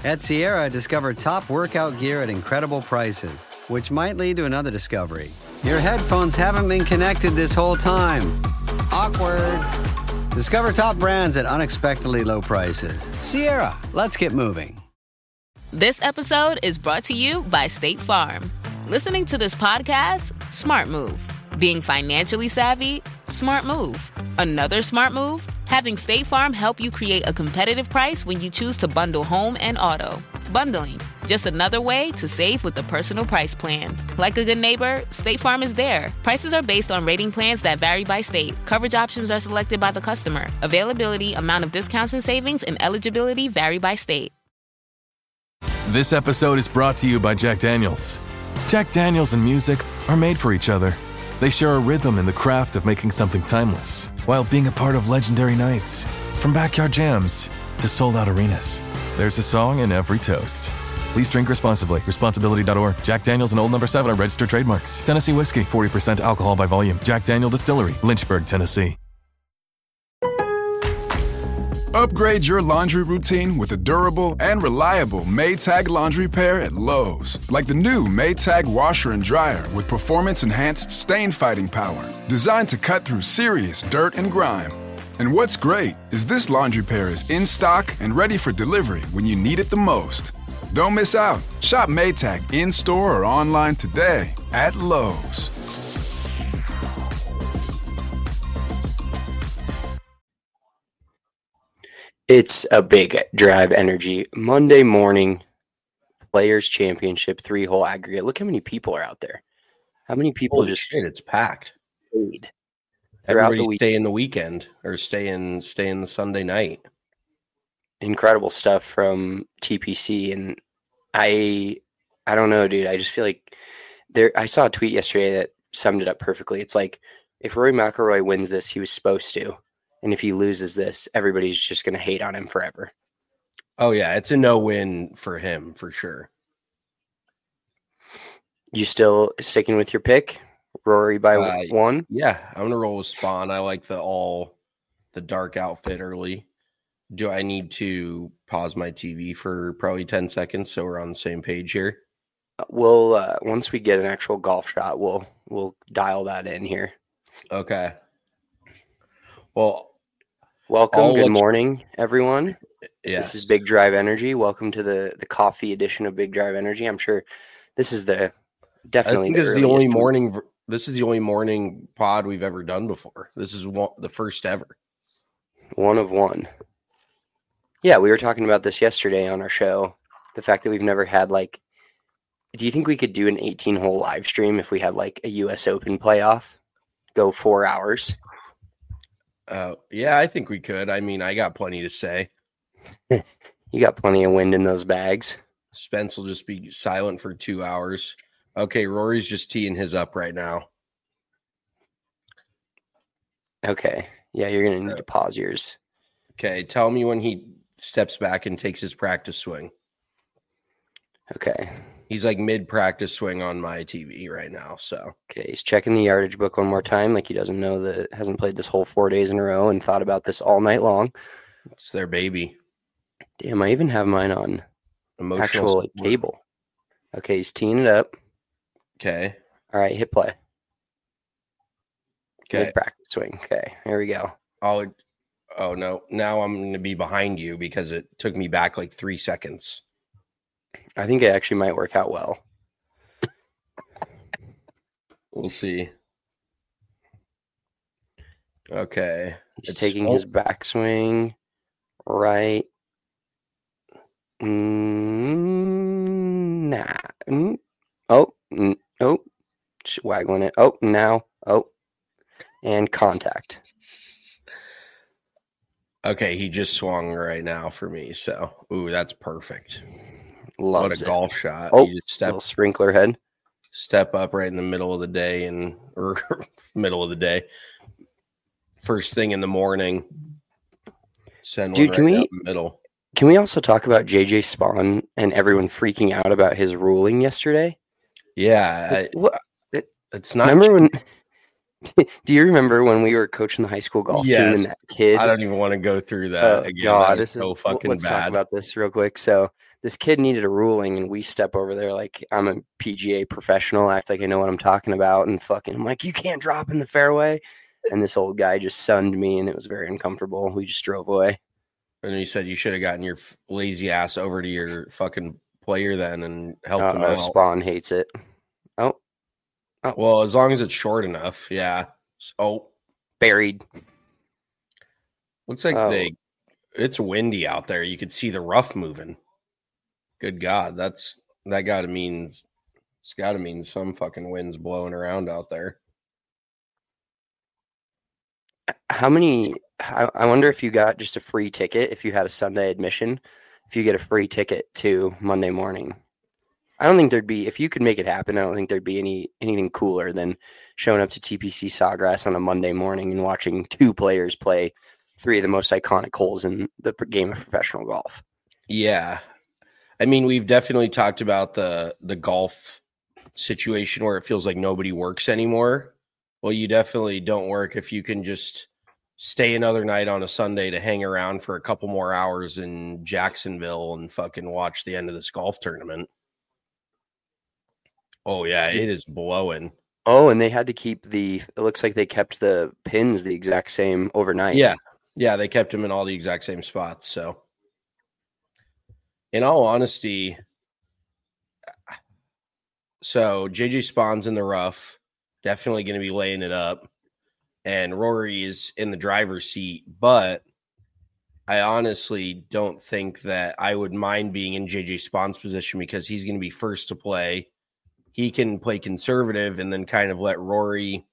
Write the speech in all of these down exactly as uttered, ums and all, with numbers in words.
At Sierra, discover top workout gear at incredible prices, which might lead to another discovery. Your headphones haven't been connected this whole time. Awkward. Discover top brands at unexpectedly low prices. Sierra, let's get moving. This episode is brought to you by State Farm. Listening to this podcast? Smart move. Being financially savvy? Smart move. Another smart move? Having State Farm help you create a competitive price when you choose to bundle home and auto. Bundling, just another way to save with the Personal Price Plan. Like a good neighbor, State Farm is there. Prices are based on rating plans that vary by state. Coverage options are selected by the customer. Availability, amount of discounts and savings, and eligibility vary by state. This episode is brought to you by Jack Daniels. Jack Daniels and music are made for each other. They share a rhythm in the craft of making something timeless, while being a part of legendary nights. From backyard jams to sold-out arenas, there's a song in every toast. Please drink responsibly. Responsibility dot org. Jack Daniels and Old Number seven are registered trademarks. Tennessee Whiskey, forty percent alcohol by volume. Jack Daniel Distillery, Lynchburg, Tennessee. Upgrade your laundry routine with a durable and reliable Maytag laundry pair at Lowe's. Like the new Maytag washer and dryer with performance-enhanced stain-fighting power. Designed to cut through serious dirt and grime. And what's great is this laundry pair is in stock and ready for delivery when you need it the most. Don't miss out. Shop Maytag in-store or online today at Lowe's. It's a big Drive Energy Monday morning Players Championship three-hole aggregate. Look how many people are out there. How many people Holy just shit, it's packed. Paid Everybody the stay in the weekend or stay in stay in the Sunday night. Incredible stuff from T P C, and I I don't know, dude. I just feel like there. I saw a tweet yesterday that summed it up perfectly. It's like if Rory McIlroy wins this, he was supposed to. And if he loses this, everybody's just going to hate on him forever. Oh, yeah. It's a no-win for him, for sure. You still sticking with your pick? Rory by uh, one? Yeah, I'm going to roll with Spawn. I like the all, the dark outfit early. Do I need to pause my T V for probably ten seconds so we're on the same page here? We'll, uh, once we get an actual golf shot, we'll we'll dial that in here. Okay. Well, welcome. I'll Good morning, you... everyone. Yes. This is Big Drive Energy. Welcome to the, the coffee edition of Big Drive Energy. I'm sure this is the definitely I think the this is the only one. morning. This is the only morning pod we've ever done before. This is one, the first ever. One of one. Yeah, we were talking about this yesterday on our show. The fact that we've never had like, do you think we could do an eighteen hole live stream if we had like a U S Open playoff? Go four hours. Uh, yeah, I think we could. I mean, I got plenty to say. You got plenty of wind in those bags. Spence will just be silent for two hours. Okay, Rory's just teeing his up right now. Okay. Yeah, you're going to need to pause yours. Okay, tell me when he steps back and takes his practice swing. Okay. He's like mid-practice swing on my T V right now, so. Okay, he's checking the yardage book one more time, like he doesn't know that hasn't played this whole four days in a row and thought about this all night long. It's their baby. Damn, I even have mine on Emotional actual like, cable. Okay, he's teeing it up. Okay. All right, hit play. Okay. Mid-practice swing. Okay, here we go. Oh, oh no. Now I'm going to be behind you because it took me back like three seconds. I think it actually might work out well. We'll see. Okay. He's it's, taking oh. his backswing right. Mm, nah. Mm. Oh, mm, oh. Just waggling it. Oh, now. Oh. And contact. Okay, he just swung right now for me. So, ooh, that's perfect. Loves what a it. golf shot. Oh, you just step, little sprinkler head. Step up right in the middle of the day and or middle of the day. First thing in the morning. Send Dude, one can right we, down the middle. Can we also talk about J J Spawn and everyone freaking out about his ruling yesterday? Yeah. What? I, it's not. Remember when Do you remember when we were coaching the high school golf Yes. team and that kid? I don't even want to go through that Oh, again. God, That this is so is, fucking let's bad. talk about this real quick. So this kid needed a ruling, and we step over there like I'm a P G A professional, act like I know what I'm talking about, and fucking I'm like, you can't drop in the fairway. And this old guy just sunned me, and it was very uncomfortable. We just drove away. And he said you should have gotten your f- lazy ass over to your fucking player then and helped him Uh, out. Spawn hates it. Oh, Well, as long as it's short enough, yeah. Oh, buried. looks like Oh. they. It's windy out there. You could see the rough moving. Good God, that's that. Got to means it's got to mean some fucking winds blowing around out there. How many? I, I wonder if you got just a free ticket if you had a Sunday admission. If you get a free ticket to Monday morning, I don't think there'd be. If you could make it happen, I don't think there'd be any anything cooler than showing up to T P C Sawgrass on a Monday morning and watching two players play three of the most iconic holes in the p- game of professional golf. Yeah, I mean, we've definitely talked about the the golf situation where it feels like nobody works anymore. Well, you definitely don't work if you can just stay another night on a Sunday to hang around for a couple more hours in Jacksonville and fucking watch the end of this golf tournament. Oh yeah, it is blowing. Oh, and they had to keep the. It looks like they kept the pins the exact same overnight. Yeah, yeah, they kept them in all the exact same spots. So, in all honesty, so J J Spawn's in the rough, definitely going to be laying it up, and Rory is in the driver's seat. But I honestly don't think that I would mind being in J J Spawn's position because he's going to be first to play. He can play conservative and then kind of let Rory.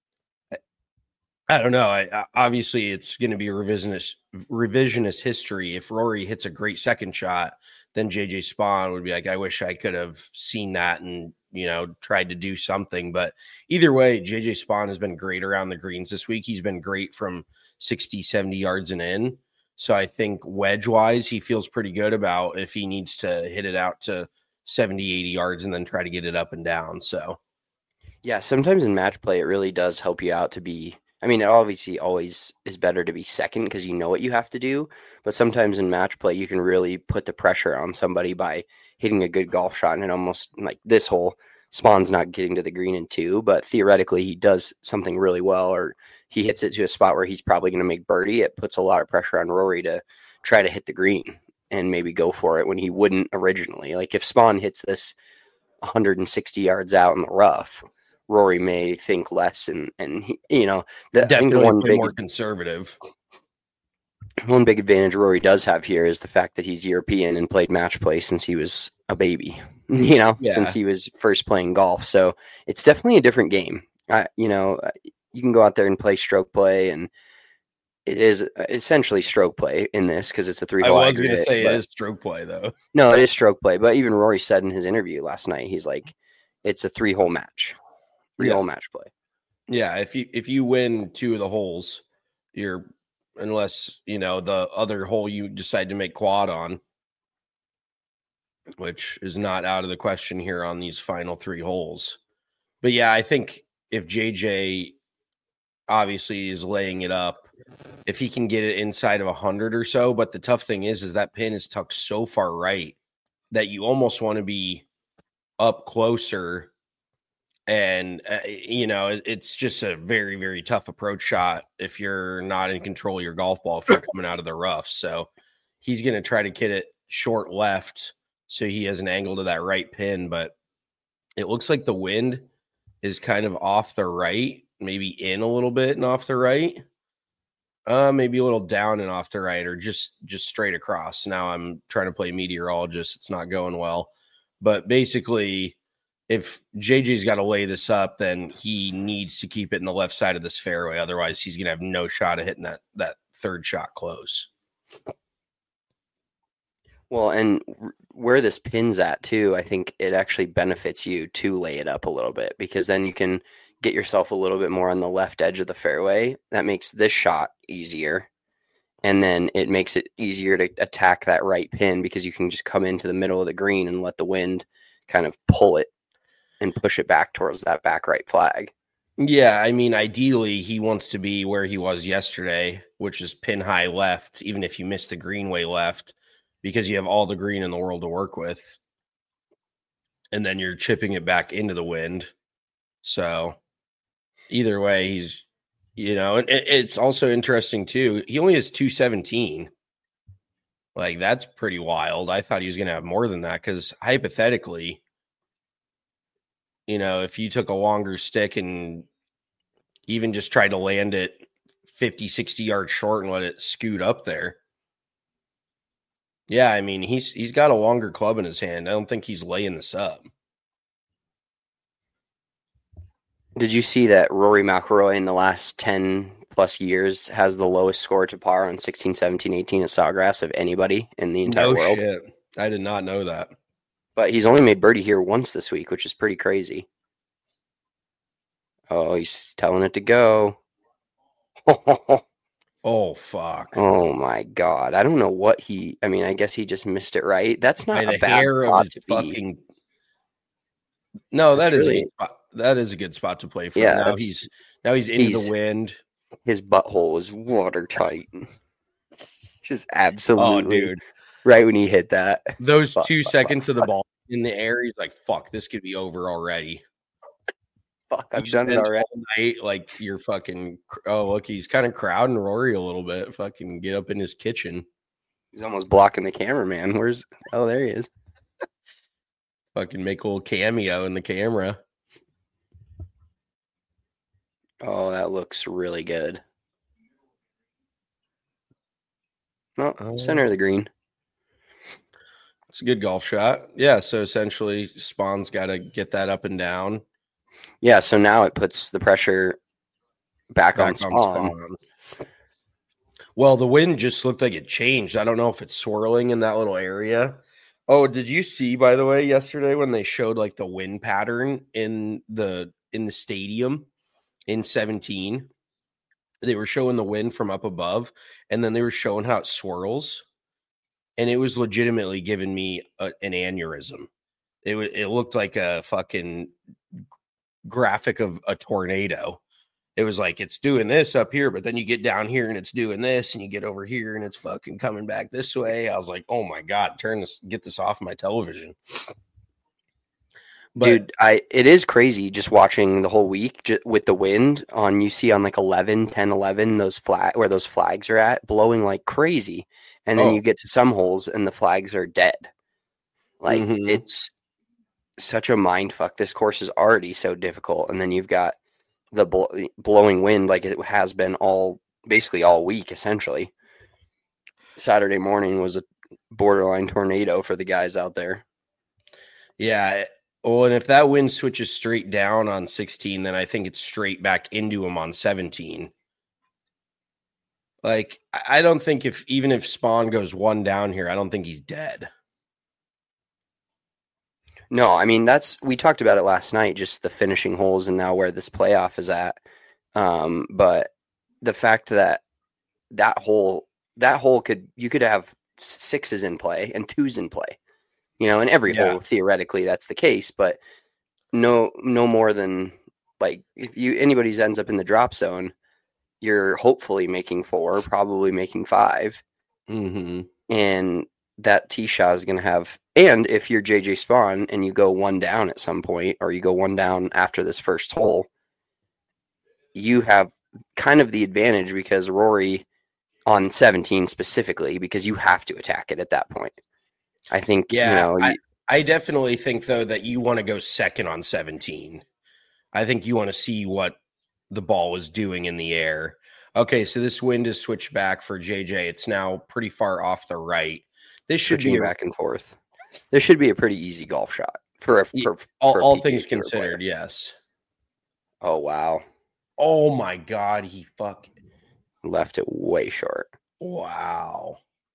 I don't know. I, I obviously it's going to be revisionist revisionist history. If Rory hits a great second shot, then J J Spawn would be like, I wish I could have seen that and, you know, tried to do something. But either way, J J Spawn has been great around the greens this week. He's been great from sixty, seventy yards and in. So I think wedge wise, he feels pretty good about if he needs to hit it out to seventy, eighty yards and then try to get it up and down. So Yeah, sometimes in match play, it really does help you out to be. I mean, it obviously always is better to be second because you know what you have to do. But sometimes in match play, you can really put the pressure on somebody by hitting a good golf shot. And it almost like this hole, Spawn's not getting to the green in two, but theoretically, he does something really well, or he hits it to a spot where he's probably going to make birdie. It puts a lot of pressure on Rory to try to hit the green and maybe go for it when he wouldn't originally. Like if Spawn hits this one hundred sixty yards out in the rough, Rory may think less, and and he, you know, the, I think definitely the one play big more conservative. one big advantage Rory does have here is the fact that he's European and played match play since he was a baby. You know, Yeah. since he was first playing golf, so it's definitely a different game. I, you know, you can go out there and play stroke play, and it is essentially stroke play in this because it's a three I hole was going to aggregate, say but- it is stroke play though. No, it is stroke play. But even Rory said in his interview last night, he's like, it's a three hole match, three hole match play. Yeah, if you if you win two of the holes, you're unless you know the other hole you decide to make quad on, which is not out of the question here on these final three holes. But yeah, I think if J J obviously is laying it up, if he can get it inside of a hundred or so, but the tough thing is, is that pin is tucked so far right that you almost want to be up closer. And, uh, you know, it- it's just a very, very tough approach shot if you're not in control of your golf ball, if you're coming out of the rough. So he's going to try to get it short left so he has an angle to that right pin. But it looks like the wind is kind of off the right, maybe in a little bit and off the right. Uh, maybe a little down and off the right, or just just straight across. Now I'm trying to play meteorologist. It's not going well. But basically, if J J's got to lay this up, then he needs to keep it in the left side of this fairway. Otherwise, he's going to have no shot at hitting that that third shot close. Well, and r- where this pin's at too, I think it actually benefits you to lay it up a little bit because then you can get yourself a little bit more on the left edge of the fairway. That makes this shot easier. And then it makes it easier to attack that right pin because you can just come into the middle of the green and let the wind kind of pull it and push it back towards that back right flag. Yeah, I mean, ideally, he wants to be where he was yesterday, which is pin high left, even if you miss the greenway left, because you have all the green in the world to work with. And then you're chipping it back into the wind. So either way, he's, you know, and it, it's also interesting too. He only has two seventeen. Like, that's pretty wild. I thought he was going to have more than that because hypothetically, you know, if you took a longer stick and even just tried to land it fifty, sixty yards short and let it scoot up there. Yeah, I mean, he's he's got a longer club in his hand. I don't think he's laying this up. Did you see that Rory McIlroy in the last ten plus years has the lowest score to par on sixteen, seventeen, eighteen at Sawgrass of anybody in the entire no world? Shit. I did not know that. But he's only made birdie here once this week, which is pretty crazy. Oh, he's telling it to go. Oh, fuck. Oh, my God. I don't know what he... I mean, I guess he just missed it, right? That's not By a the bad hair spot of his to fucking... Be. No, that That's is really... a spot. That is a good spot to play for. Yeah, now he's now he's into he's, the wind. His butthole is watertight. Just absolutely. Oh, dude. Right when he hit that. Those fuck, two fuck, seconds fuck, of the fuck. ball in the air, he's like, fuck, this could be over already. Fuck, I've you done it already. Night, like you're fucking, oh, look, he's kind of crowding Rory a little bit. Fucking get up in his kitchen. He's almost blocking the cameraman. Where's, oh, there he is. Fucking make a little cameo in the camera. Oh, that looks really good. No, oh, center of the green. It's a good golf shot. Yeah, so essentially Spawn's got to get that up and down. Yeah, so now it puts the pressure back, back on, Spawn. on Spawn. Well, the wind just looked like it changed. I don't know if it's swirling in that little area. Oh, did you see, by the way, yesterday when they showed like the wind pattern in the in the stadium in seventeen? They were showing the wind from up above, and then they were showing how it swirls. And it was legitimately giving me a, an aneurysm. It was, it looked like a fucking graphic of a tornado. It was like, it's doing this up here, but then you get down here and it's doing this, and you get over here and it's fucking coming back this way. I was like, oh my God, turn this, get this off my television. But, dude, I it is crazy just watching the whole week just with the wind on, you see on like eleven, ten, eleven, those flag where those flags are at blowing like crazy. And then oh. you get to some holes and the flags are dead. Like mm-hmm. It's such a mind fuck. This course is already so difficult. And then you've got the bl- blowing wind like it has been all basically all week, essentially. Saturday morning was a borderline tornado for the guys out there. Yeah. Well, and if that wind switches straight down on sixteen, then I think it's straight back into him on seventeen. Like, I don't think if even if Spawn goes one down here, I don't think he's dead. No, I mean, that's, we talked about it last night, just the finishing holes and now where this playoff is at. Um, but the fact that that hole, that hole could, you could have sixes in play and twos in play, you know, in every yeah. hole, theoretically that's the case, but no, no more than like, if you, anybody's ends up in the drop zone, you're hopefully making four, probably making five. Mm-hmm. And that tee shot is going to have, and if you're J J Spawn and you go one down at some point, or you go one down after this first hole, you have kind of the advantage because Rory on seventeen specifically, because you have to attack it at that point. I think, yeah, you know, I, you, I definitely think though that you want to go second on seventeen. I think you want to see what the ball was doing in the air. Okay, so this wind is switched back for J J. It's now pretty far off the right. This should Switching be a, back and forth. This should be a pretty easy golf shot for a for, all, for a all things considered. player. Yes. Oh wow! Oh my God! He fuck left it way short. Wow.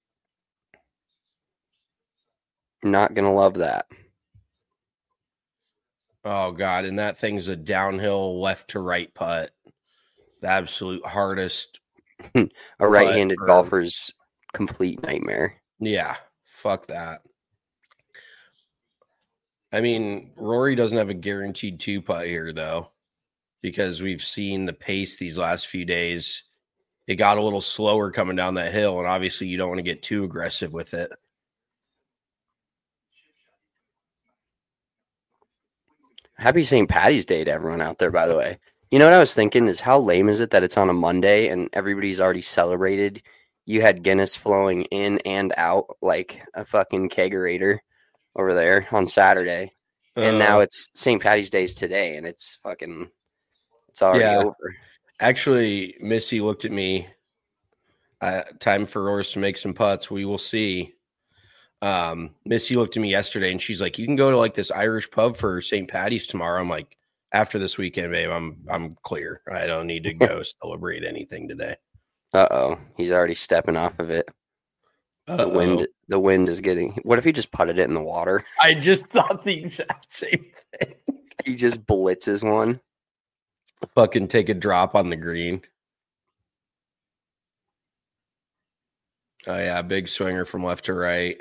Not gonna love that. Oh God! And that thing's a downhill left to right putt. The absolute hardest. A right-handed for... golfer's complete nightmare. Yeah, fuck that. I mean, Rory doesn't have a guaranteed two putt here, though. because we've seen the pace these last few days. It got a little slower coming down that hill, and obviously you don't want to get too aggressive with it. Happy Saint Patty's Day to everyone out there, by the way. You know what I was thinking is how lame is it that it's on a Monday and everybody's already celebrated? You had Guinness flowing in and out like a fucking kegerator over there on Saturday. And uh, now it's Saint Patty's Day's today, and it's fucking, it's already yeah. over. Actually, Missy looked at me. Uh, time for Roars to make some putts. We will see. Um, Missy looked at me yesterday, and she's like, "You can go to like this Irish pub for Saint Patty's tomorrow." I'm like, "After this weekend, babe, I'm I'm clear. I don't need to go celebrate anything today." Uh oh, he's already stepping off of it. Uh-oh. The wind, the wind is getting. What if he just putted it in the water? I just thought the exact same thing. He just blitzes one. Fucking take a drop on the green. Oh yeah, big swinger from left to right.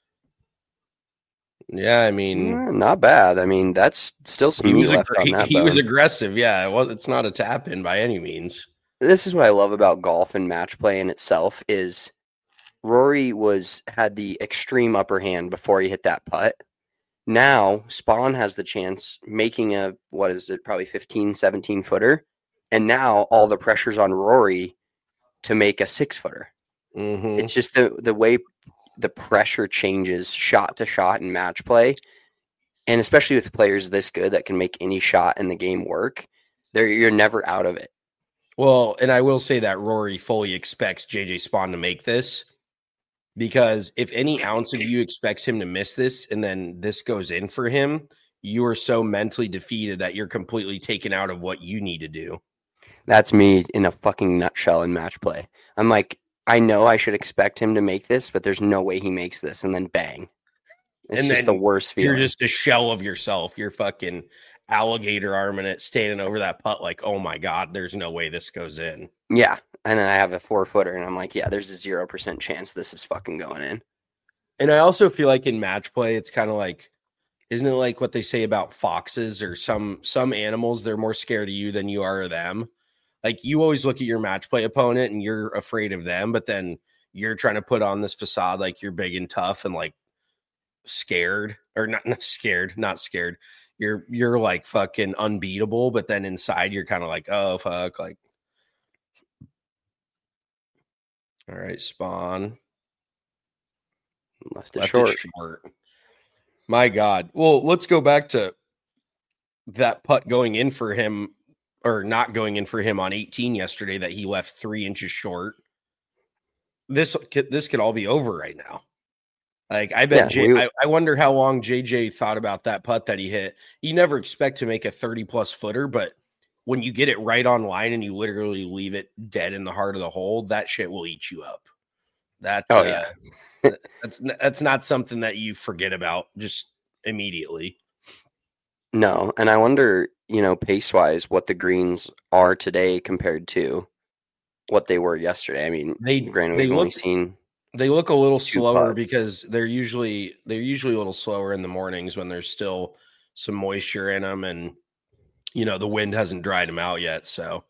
Yeah, I mean, not bad. I mean, that's still some meat left on that. He bone. was aggressive. Yeah, it was. It's not a tap in by any means. This is what I love about golf and match play in itself is Rory was had the extreme upper hand before he hit that putt. Now Spawn has the chance making a, what is it, probably fifteen, seventeen footer. And now all the pressure's on Rory to make a six footer. Mm-hmm. It's just the, the way the pressure changes shot to shot in match play. And especially with players this good that can make any shot in the game work, they're, you're never out of it. Well, and I will say that Rory fully expects J J Spawn to make this. Because if any ounce of you expects him to miss this and then this goes in for him, you are so mentally defeated that you're completely taken out of what you need to do. That's me in a fucking nutshell in match play. I'm like, I know I should expect him to make this, but there's no way he makes this. And then bang. It's and just the worst feeling. You're just a shell of yourself. You're fucking alligator arming it, standing over that putt like, oh my God, there's no way this goes in. Yeah. And then I have a four footer and I'm like, yeah, there's a zero percent chance this is fucking going in. And I also feel like in match play, it's kind of like, isn't it like what they say about foxes or some, some animals, they're more scared of you than you are of them. Like you always look at your match play opponent and you're afraid of them, but then you're trying to put on this facade like you're big and tough and like scared or not, not scared, not scared. You're, you're like fucking unbeatable, but then inside you're kind of like, oh, fuck, like, all right, Spawn. Left it short. short. My God. Well, let's go back to that putt going in for him or not going in for him on eighteen yesterday that he left three inches short. This this could all be over right now. Like, I bet yeah, J, we, I, I wonder how long J J thought about that putt that he hit. You never expect to make a thirty-plus footer, but when you get it right on line and you literally leave it dead in the heart of the hole, that shit will eat you up. That, oh, uh, yeah. that's that's not something that you forget about just immediately. No, and I wonder, you know, pace-wise, what the greens are today compared to what they were yesterday. I mean, they granted, they we've look, only seen they look a little slower putts. because they're usually they're usually a little slower in the mornings when there's still some moisture in them and. You know, the wind hasn't dried him out yet, so.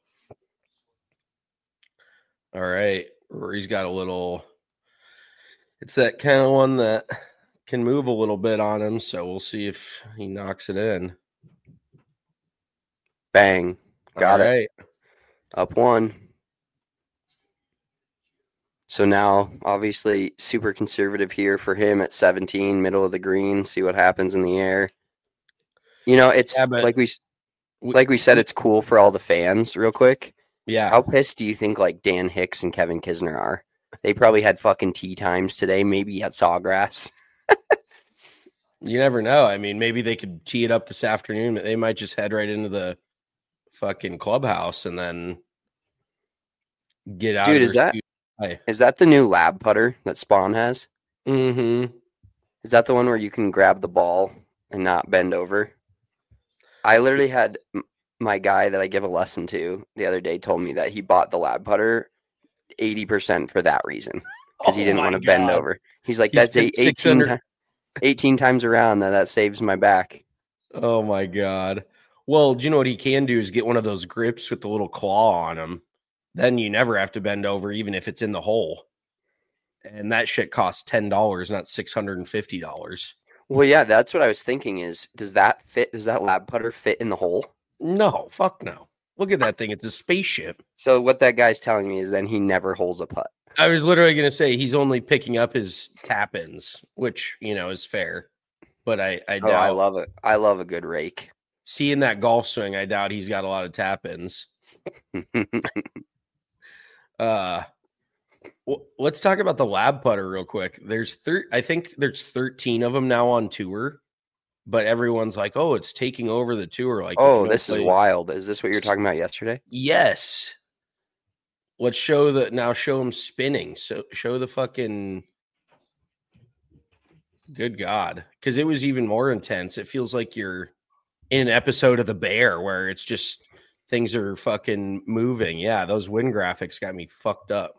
All right. Rory's got a little, it's that kind of one that can move a little bit on him, so we'll see if he knocks it in. Bang. Got All it. Right. Up one. So now, obviously, super conservative here for him at seventeen, middle of the green, see what happens in the air. You know, it's yeah, like we... Like we said, it's cool for all the fans, real quick. Yeah. How pissed do you think, like, Dan Hicks and Kevin Kisner are? They probably had fucking tea times today, maybe at Sawgrass. You never know. I mean, maybe they could tee it up this afternoon. They might just head right into the fucking clubhouse and then get out. Dude, is that, is that the new lab putter that Spawn has? Mm-hmm. Is that the one where you can grab the ball and not bend over? I literally had my guy that I give a lesson to the other day told me that he bought the lab putter eighty percent for that reason because he didn't oh want to God. bend over. He's like, He's that's eighteen, ti- eighteen times around that that saves my back. Oh my God. Well, do you know what he can do is get one of those grips with the little claw on them. Then you never have to bend over, even if it's in the hole. And that shit costs ten dollars, not six hundred fifty dollars. Well, yeah, that's what I was thinking is, does that fit? Does that lab putter fit in the hole? No, fuck no. Look at that thing. It's a spaceship. So what that guy's telling me is then he never holds a putt. I was literally going to say he's only picking up his tap-ins, which, you know, is fair. But I, I doubt. Oh, I love it. I love a good rake. Seeing that golf swing, I doubt he's got a lot of tap-ins. uh, well, let's talk about the lab putter real quick. There's thir- I think there's thirteen of them now on tour, but everyone's like, "Oh, it's taking over the tour." Like, oh, this play- is wild. Is this what you were talking about yesterday? Yes. Let's show the now. Show them spinning. So show the fucking. Good God, because it was even more intense. It feels like you're in an episode of The Bear where it's just things are fucking moving. Yeah, those wind graphics got me fucked up.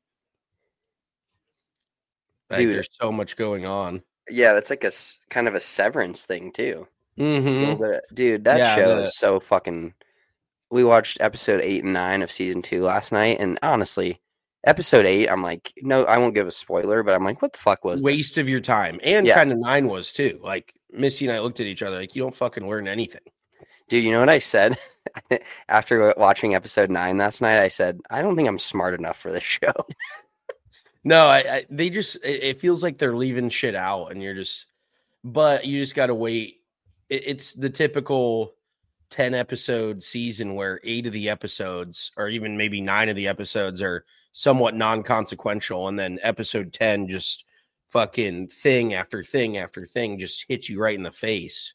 Like, Dude, there's so much going on. Yeah, that's like a s- kind of a Severance thing too. Mm-hmm. Bit, dude, that Yeah, show the- is so fucking. We watched episode eight and nine of season two last night, and honestly, episode eight, I'm like, no, I won't give a spoiler, but I'm like, what the fuck was Waste this? of your time. And Yeah. kind of nine was too. Like Missy and I looked at each other like, you don't fucking learn anything. Dude, you know what I said after watching episode nine last night? I said, I don't think I'm smart enough for this show. No, I, I they just it, it feels like they're leaving shit out, and you're just, but you just got to wait. It, it's the typical ten episode season where eight of the episodes, or even maybe nine of the episodes, are somewhat non-consequential, and then episode ten just fucking thing after thing after thing just hits you right in the face.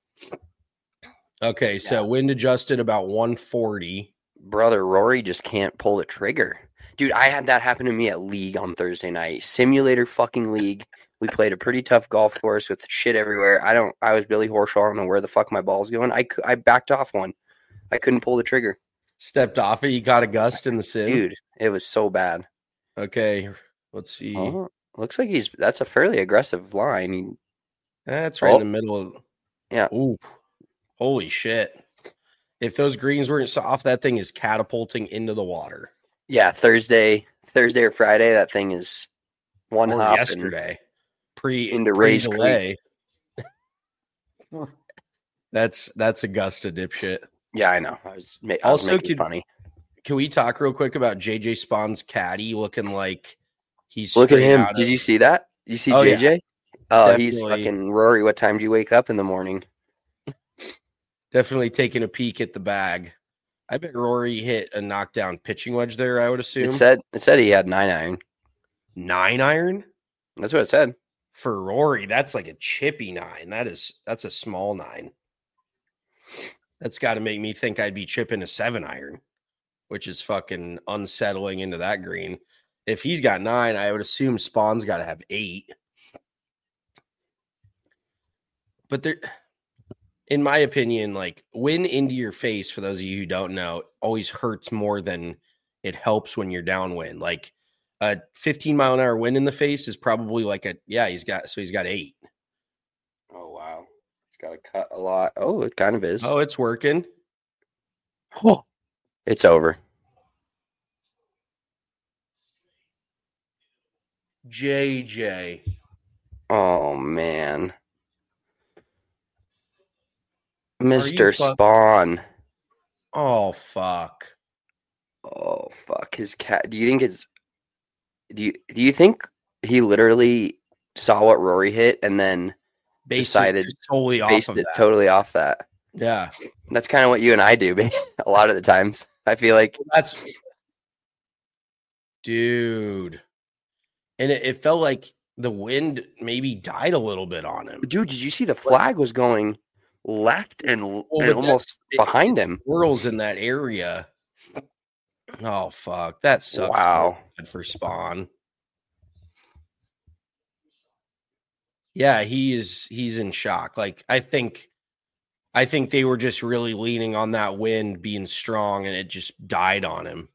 Okay, so Yeah. wind adjusted about one forty. Brother, Rory just can't pull the trigger. Dude, I had that happen to me at League on Thursday night. Simulator fucking League. We played a pretty tough golf course with shit everywhere. I don't, I was Billy Horschel. I don't know where the fuck my ball's going. I, cou- I backed off one. I couldn't pull the trigger. Stepped off it. You got a gust in the sim. Dude, it was so bad. Okay, let's see. Oh, looks like he's, that's a fairly aggressive line. He, That's right Oh. in the middle of. Yeah. Ooh, holy shit! If those greens weren't soft, that thing is catapulting into the water. yeah, Thursday, Thursday or Friday, that thing is one Or hop. and- yesterday, pre into pre Rays delay. that's that's Augusta dipshit. yeah, I know. I was, ma- I was Also, making could- funny. Can we talk real quick about J J Spawn's caddy looking like he's Look at straight him. out Did of- you see that? You see Oh, J yeah. J? Oh, he's Definitely. fucking Rory. What time do you wake up in the morning? Definitely taking a peek at the bag. I bet Rory hit a knockdown pitching wedge there. I would assume It said it said he had nine iron. nine iron. That's what it said. For Rory, that's like a chippy nine. That is that's a small nine. That's got to make me think I'd be chipping a seven iron, which is fucking unsettling into that green. If he's got nine, I would assume Spawn's got to have eight. But there, in my opinion, like wind into your face, for those of you who don't know, always hurts more than it helps when you're downwind. Like a fifteen mile an hour wind in the face is probably like a, yeah, he's got, so he's got eight. Oh wow, it's got to cut a lot. Oh, it kind of is. Oh, it's working. Oh, it's over. J J. Oh man, you Mister fuck- Spawn. Oh, fuck. Oh fuck, his cat. Do you think it's? Do you do you think he literally saw what Rory hit and then Based Decided- it totally off based of it that. totally off that? Yeah. That's kind of what you and I do, babe. A lot of the times. I feel like That's dude. And it, it felt like the wind maybe died a little bit on him. dude, did you see the flag was going left and, and but that- almost it- behind him? Whirls in that area. Oh fuck. That sucks. so Wow. bad for Spawn. Yeah, he is he's in shock. Like I think I think they were just really leaning on that wind being strong and it just died on him.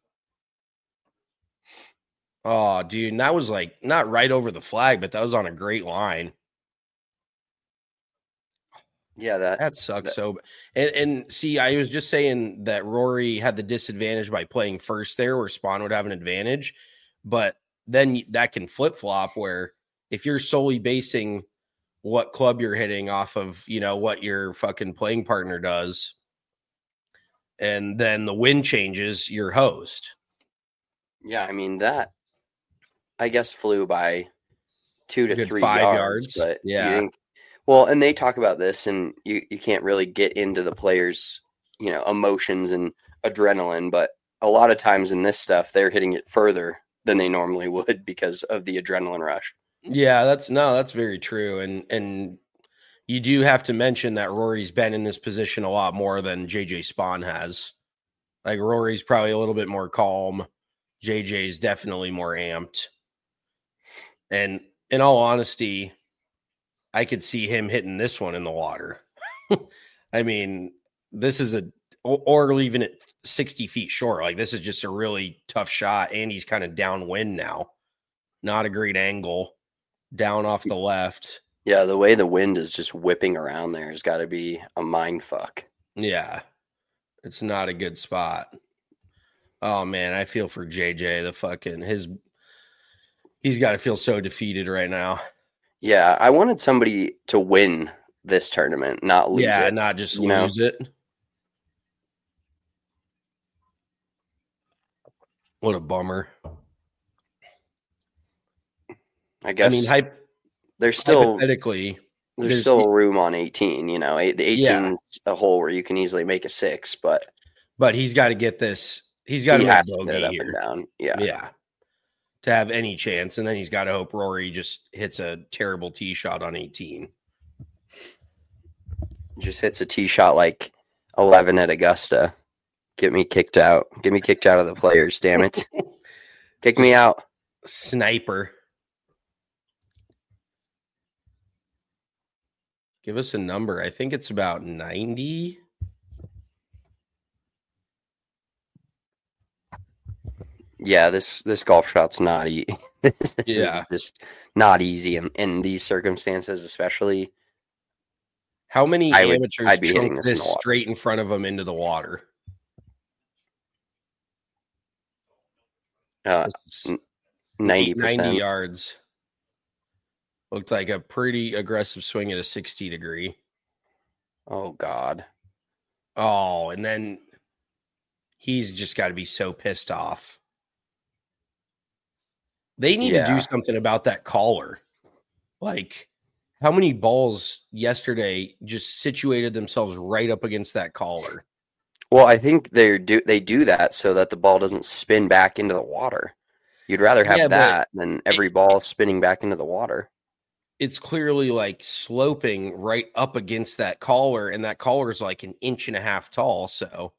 Oh, dude, and that was like not right over the flag, but that was on a great line. Yeah, that That sucks. that, So, and, and see, I was just saying that Rory had the disadvantage by playing first there, where Spawn would have an advantage, but then that can flip flop where if you're solely basing what club you're hitting off of, you know, what your fucking playing partner does, and then the wind changes, your host. yeah, I mean that I guess flew by two to Good three five yards, yards. but Yeah. you think, well, and they talk about this, and you, you can't really get into the players' you know emotions and adrenaline, but a lot of times in this stuff, they're hitting it further than they normally would because of the adrenaline rush. Yeah, that's no, that's very true. And and you do have to mention that Rory's been in this position a lot more than J J Spawn has. Like Rory's probably a little bit more calm. J J's definitely more amped. And in all honesty, I could see him hitting this one in the water. I mean, this is a or, or leaving it sixty feet short. Like this is just a really tough shot. And he's kind of downwind now. Not a great angle. Down off the left. Yeah, the way the wind is just whipping around there has got to be a mind fuck. Yeah. It's not a good spot. Oh man, I feel for J J. The fucking his he's got to feel so defeated right now. Yeah, I wanted somebody to win this tournament, not lose Yeah, it. not just you know? lose it. What a bummer. I guess I mean, hype, there's still hypothetically, there's, there's- still room on eighteen. You know, eight, the Yeah. eighteen's a hole where you can easily make a six, but but he's got to get this. He's got to he make has to hit it bogey up here. and down. Yeah. Yeah. To have any chance. And then he's got to hope Rory just hits a terrible tee shot on eighteen. Just hits a tee shot like eleven at Augusta. Get me kicked out. Get me kicked out of the players, damn it. Kick me out. Sniper. Give us a number. I think it's about ninety. Yeah, this this golf shot's not easy. this Yeah. is just not easy in, in these circumstances, especially. How many I would- amateurs I'd be hitting chunk this in this the water. straight in front of them into the water? Uh, This is ninety ninety percent. yards. Looked like a pretty aggressive swing at a sixty degree. Oh God. Oh, and then he's just got to be so pissed off. They need to Yeah. do something about that caller. Like, how many balls yesterday just situated themselves right up against that caller? Well, I think they do they do that so that the ball doesn't spin back into the water. You'd rather have Yeah, but that than every ball spinning back into the water. It's clearly like sloping right up against that collar, and that collar is like an inch and a half tall. So,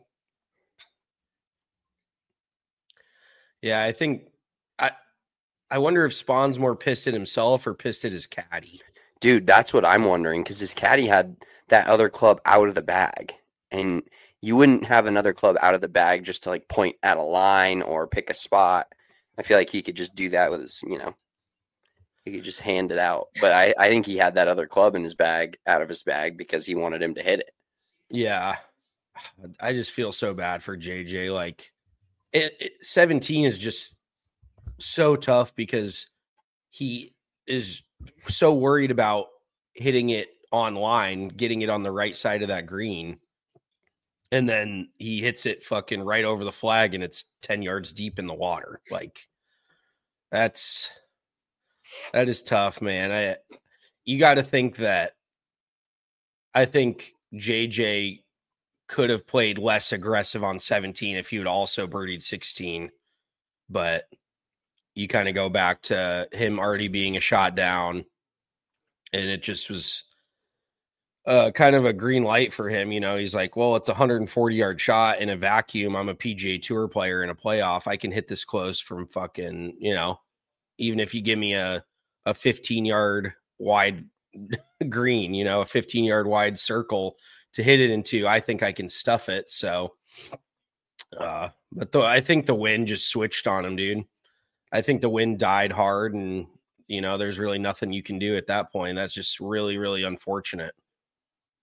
yeah, I think I I wonder if Spawn's more pissed at himself or pissed at his caddy. Dude, that's what I'm wondering, because his caddy had that other club out of the bag, and you wouldn't have another club out of the bag just to like point at a line or pick a spot. I feel like he could just do that with his, you know, he could just hand it out. But I, I think he had that other club in his bag, out of his bag, because he wanted him to hit it. Yeah, I just feel so bad for J J. Like, it, it, seventeen is just so tough because he is so worried about hitting it online, getting it on the right side of that green. And then he hits it fucking right over the flag and it's ten yards deep in the water. Like, that's, that is tough, man. I, you got to think that, I think J J could have played less aggressive on seventeen if he would also birdied sixteen. But you kind of go back to him already being a shot down, and it just was uh, kind of a green light for him. You know, he's like, well, it's a one hundred forty yard shot in a vacuum. I'm a P G A Tour player in a playoff. I can hit this close from fucking, you know, even if you give me a, a fifteen yard wide green, you know, a fifteen yard wide circle to hit it into, I think I can stuff it. So, uh, but the, I think the wind just switched on him, dude. I think the wind died hard, and, you know, there's really nothing you can do at that point. That's just really, really unfortunate.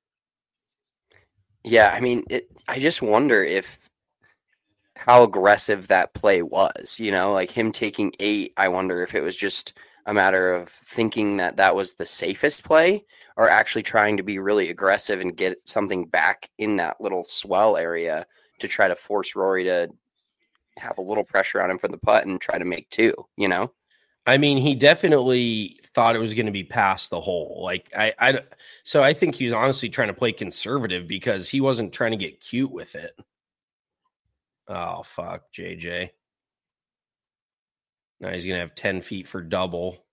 Yeah, I mean, it, I just wonder if how aggressive that play was. You know, like him taking eight. I wonder if it was just a matter of thinking that that was the safest play, or actually trying to be really aggressive and get something back in that little swell area to try to force Rory to have a little pressure on him for the putt and try to make two. You know. I mean, he definitely thought it was going to be past the hole. Like I, I, so I think he was honestly trying to play conservative because he wasn't trying to get cute with it. Oh, fuck, J J. Now he's going to have ten feet for double.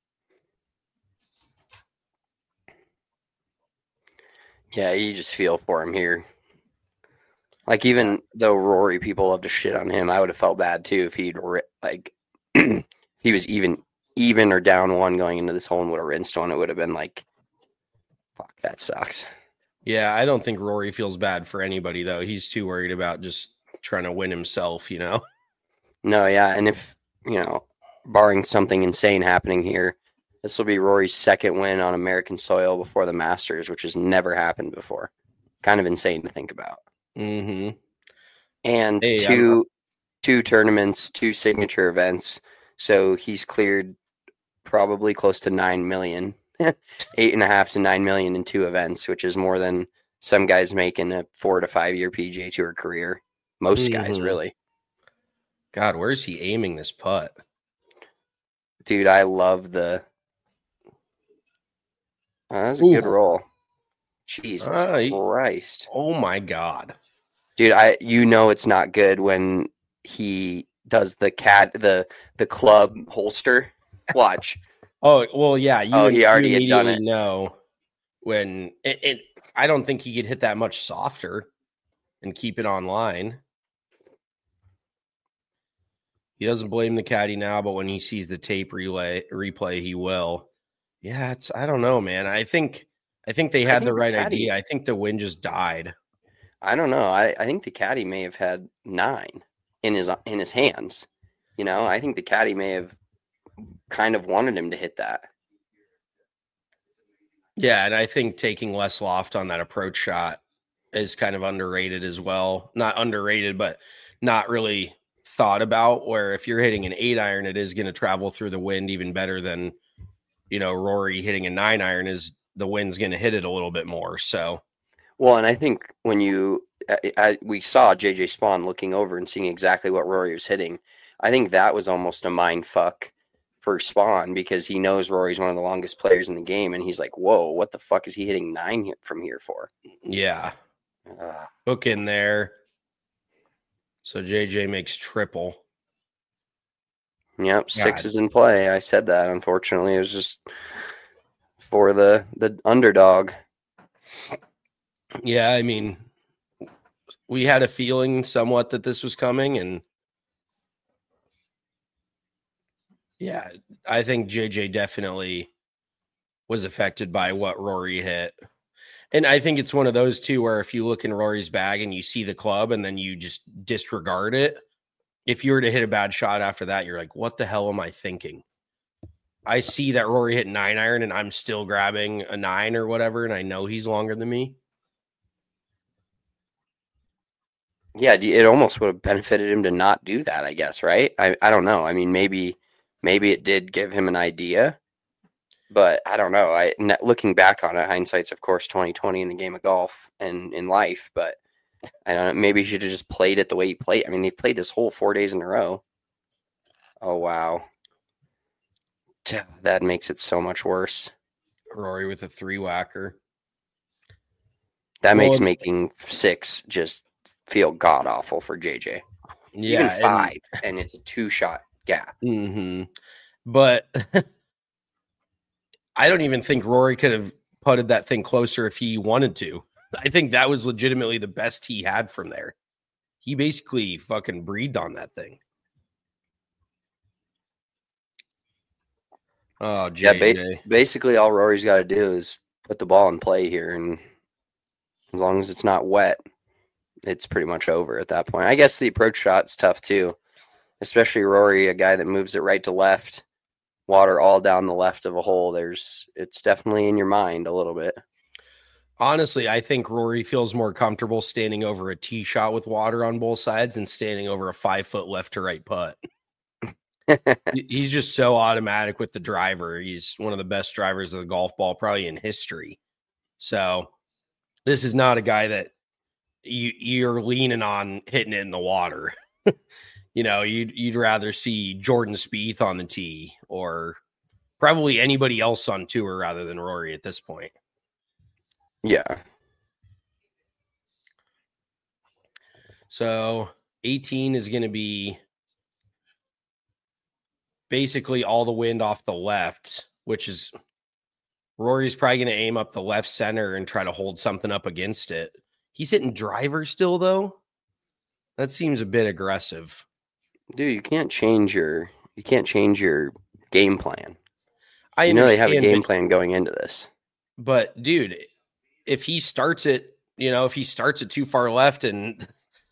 Yeah, you just feel for him here. Like, even though Rory, people love to shit on him, I would have felt bad too if he'd, like, if he was even even or down one going into this hole and would have rinsed one. It would have been like, fuck, that sucks. Yeah, I don't think Rory feels bad for anybody, though. He's too worried about just trying to win himself, you know? No, yeah, and if, you know, barring something insane happening here, this will be Rory's second win on American soil before the Masters, which has never happened before. Kind of insane to think about. Mm-hmm. And hey, two two tournaments, two signature events. So he's cleared probably close to nine million, eight and a half to nine million in two events, which is more than some guys make in a four to five year P G A Tour career. Most mm-hmm. guys, really. God, where's he aiming this putt? Dude, I love the. Oh, that was a Ooh. good roll. Jesus uh, Christ! Oh my God, dude! I you know it's not good when he does the cat the the club holster. Watch. oh well, yeah. You, oh, he already you had done it. Know when it, it. I don't think he could hit that much softer and keep it online. He doesn't blame the caddy now, but when he sees the tape relay replay, he will. Yeah, it's I don't know, man. I think I think they had think the right the caddy, idea. I think the wind just died. I don't know. I, I think the caddy may have had nine in his in his hands. You know, I think the caddy may have kind of wanted him to hit that. Yeah, and I think taking less loft on that approach shot is kind of underrated as well. Not underrated, but not really thought about, where if you're hitting an eight iron, it is going to travel through the wind even better than, you know, Rory hitting a nine iron is the wind's going to hit it a little bit more. So, well, and I think when you, I, I, we saw J J Spawn looking over and seeing exactly what Rory was hitting. I think that was almost a mind fuck for Spawn, because he knows Rory's one of the longest players in the game. And he's like, whoa, what the fuck is he hitting nine here, from here for? Yeah. Uh, Hook in there. So J J makes triple. Yep, six God. is in play. I said that. Unfortunately, it was just for the the underdog. Yeah, I mean, we had a feeling somewhat that this was coming, and yeah, I think J J definitely was affected by what Rory hit. And I think it's one of those two where if you look in Rory's bag and you see the club and then you just disregard it, if you were to hit a bad shot after that, you're like, what the hell am I thinking? I see that Rory hit nine iron and I'm still grabbing a nine or whatever, and I know he's longer than me. Yeah, it almost would have benefited him to not do that, I guess, right? I, I don't know. I mean, maybe maybe it did give him an idea. But I don't know. I looking back on it, hindsight's of course twenty twenty in the game of golf and in life. But I don't know. Maybe he should have just played it the way he played. I mean, they played this whole four days in a row. Oh wow, that makes it so much worse. Rory with a three whacker. That well, makes making six just feel god awful for J J. Yeah, even five, and, and it's a two shot gap. Mm-hmm. But. I don't even think Rory could have putted that thing closer if he wanted to. I think that was legitimately the best he had from there. He basically fucking breathed on that thing. Oh, J J. Yeah, ba- basically all Rory's got to do is put the ball in play here, and as long as it's not wet, it's pretty much over at that point. I guess the approach shot's tough too, especially Rory, a guy that moves it right to left. Water all down the left of a hole. There's it's definitely in your mind a little bit. Honestly, I think Rory feels more comfortable standing over a tee shot with water on both sides than standing over a five foot left to right putt. He's just so automatic with the driver. He's one of the best drivers of the golf ball, probably in history. So this is not a guy that you, you're leaning on hitting it in the water. You know, you'd, you'd rather see Jordan Spieth on the tee or probably anybody else on tour rather than Rory at this point. Yeah. So eighteen is going to be basically all the wind off the left, which is Rory's probably going to aim up the left center and try to hold something up against it. He's hitting driver still, though. That seems a bit aggressive. Dude, you can't change your you can't change your game plan. I you know they have a game but, plan going into this. But dude, if he starts it, you know, if he starts it too far left and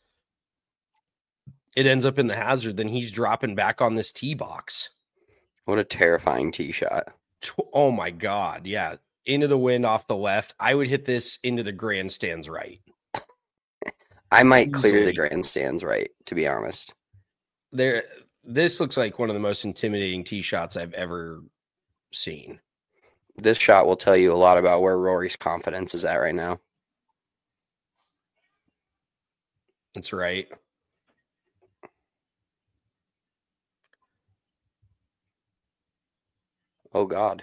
it ends up in the hazard, then he's dropping back on this tee box. What a terrifying tee shot. Oh my God. Yeah. Into the wind off the left. I would hit this into the grandstands right. I might clear the grandstands right, to be honest. There, this looks like one of the most intimidating tee shots I've ever seen. This shot will tell you a lot about where Rory's confidence is at right now. That's right. Oh, God.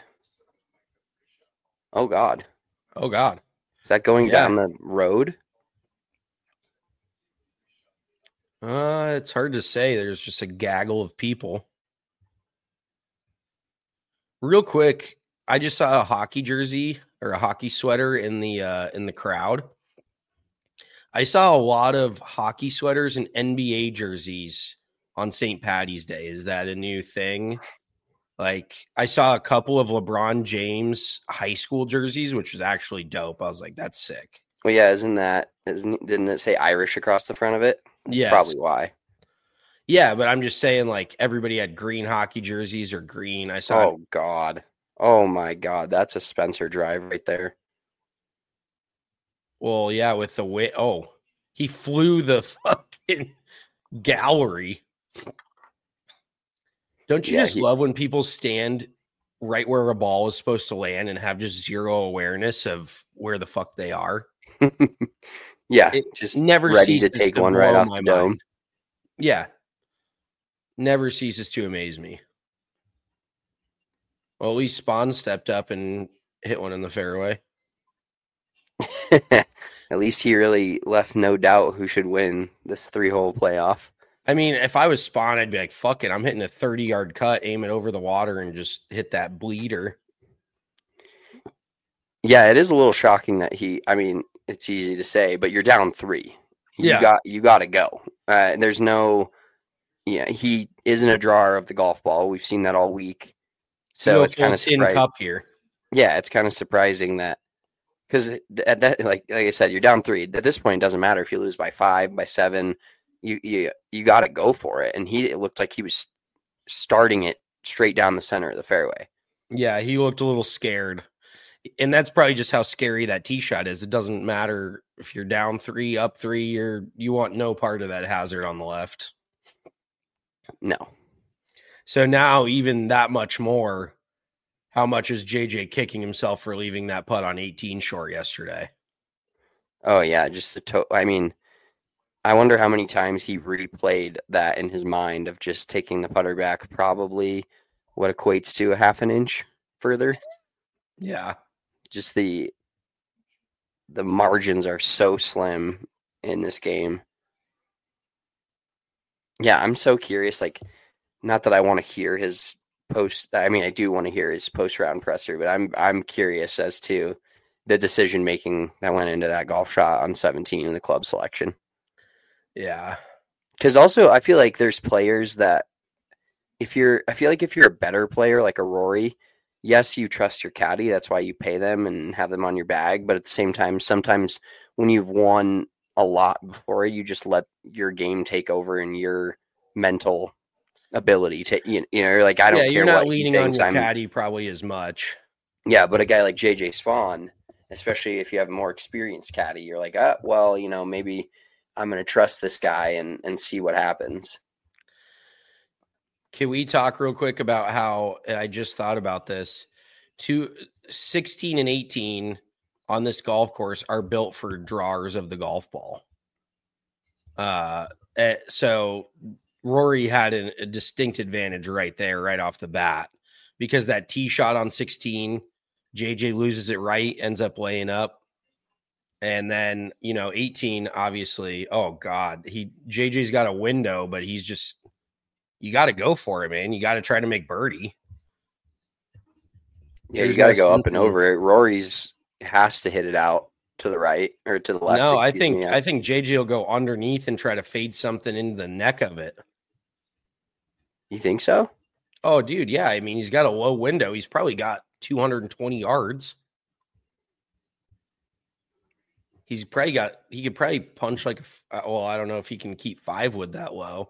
Oh, God. Oh, God. Is that going Yeah. down the road? Uh, it's hard to say. There's just a gaggle of people. Real quick, I just saw a hockey jersey or a hockey sweater in the uh, in the crowd. I saw a lot of hockey sweaters and N B A jerseys on Saint Patty's Day. Is that a new thing? Like, I saw a couple of LeBron James high school jerseys, which was actually dope. I was like, that's sick. Well, yeah, isn't that, isn't, didn't it say Irish across the front of it? Yeah, Probably why. Yeah, but I'm just saying, like, everybody had green hockey jerseys or green. I saw. Oh, God. Oh, my God. That's a Spencer drive right there. Well, yeah, with the way. Oh, he flew the fucking gallery. Don't you Yeah, just he- love when people stand right where a ball is supposed to land and have just zero awareness of where the fuck they are? Yeah, It just never ready to ceases take to one right blow off my the dome. mind. Yeah. Never ceases to amaze me. Well, at least Spawn stepped up and hit one in the fairway. At least he really left no doubt who should win this three-hole playoff. I mean, if I was Spawn, I'd be like, fuck it. I'm hitting a thirty-yard cut, aim it over the water, and just hit that bleeder. Yeah, it is a little shocking that he, I mean, it's easy to say, but you're down three. You Yeah. got you got to go. Uh, there's no, yeah, he isn't a drawer of the golf ball. We've seen that all week. So Little it's kind of tin surprising. cup here. Yeah, it's kind of surprising that, because at that, like like I said, you're down three. At this point, it doesn't matter if you lose by five, by seven. You you you got to go for it. And he it looked like he was starting it straight down the center of the fairway. Yeah, he looked a little scared. And that's probably just how scary that tee shot is. It doesn't matter if you're down three, up three, you're you want no part of that hazard on the left. No. So now even that much more, how much is J J kicking himself for leaving that putt on eighteen short yesterday? Oh yeah, just the to- I mean, I wonder how many times he replayed that in his mind of just taking the putter back, probably what equates to a half an inch further. Yeah. Just the the margins are so slim in this game. Yeah, I'm so curious. Like, not that I want to hear his post. I mean, I do want to hear his post round presser, but I'm I'm curious as to the decision making that went into that golf shot on seventeen in the club selection. Yeah. Because also, I feel like there's players that if you're, I feel like if you're a better player like a Rory, yes, you trust your caddy. That's why you pay them and have them on your bag. But at the same time, sometimes when you've won a lot before, you just let your game take over and your mental ability to, you know, like, I don't yeah, care you're not what he leaning on thinks your I'm. caddy probably as much. Yeah, but a guy like J J Spawn, especially if you have a more experienced caddy. You're like, ah, well, you know, maybe I'm going to trust this guy and, and see what happens. Can we talk real quick about how, and I just thought about this, two, sixteen and eighteen on this golf course are built for drawers of the golf ball. Uh, so Rory had an, a distinct advantage right there, right off the bat, because that tee shot on sixteen, J J loses it right, ends up laying up. And then, you know, eighteen, obviously, oh God, he J J's got a window, but he's just, you got to go for it, man. You got to try to make birdie. Yeah, There's you got to no go up and over it. Rory's has to hit it out to the right or to the left. No, I think me. I think J J will go underneath and try to fade something into the neck of it. You think so? Oh, dude, yeah. I mean, he's got a low window. He's probably got two hundred twenty yards. He's probably got, he could probably punch like, a, well, I don't know if he can keep five wood that low.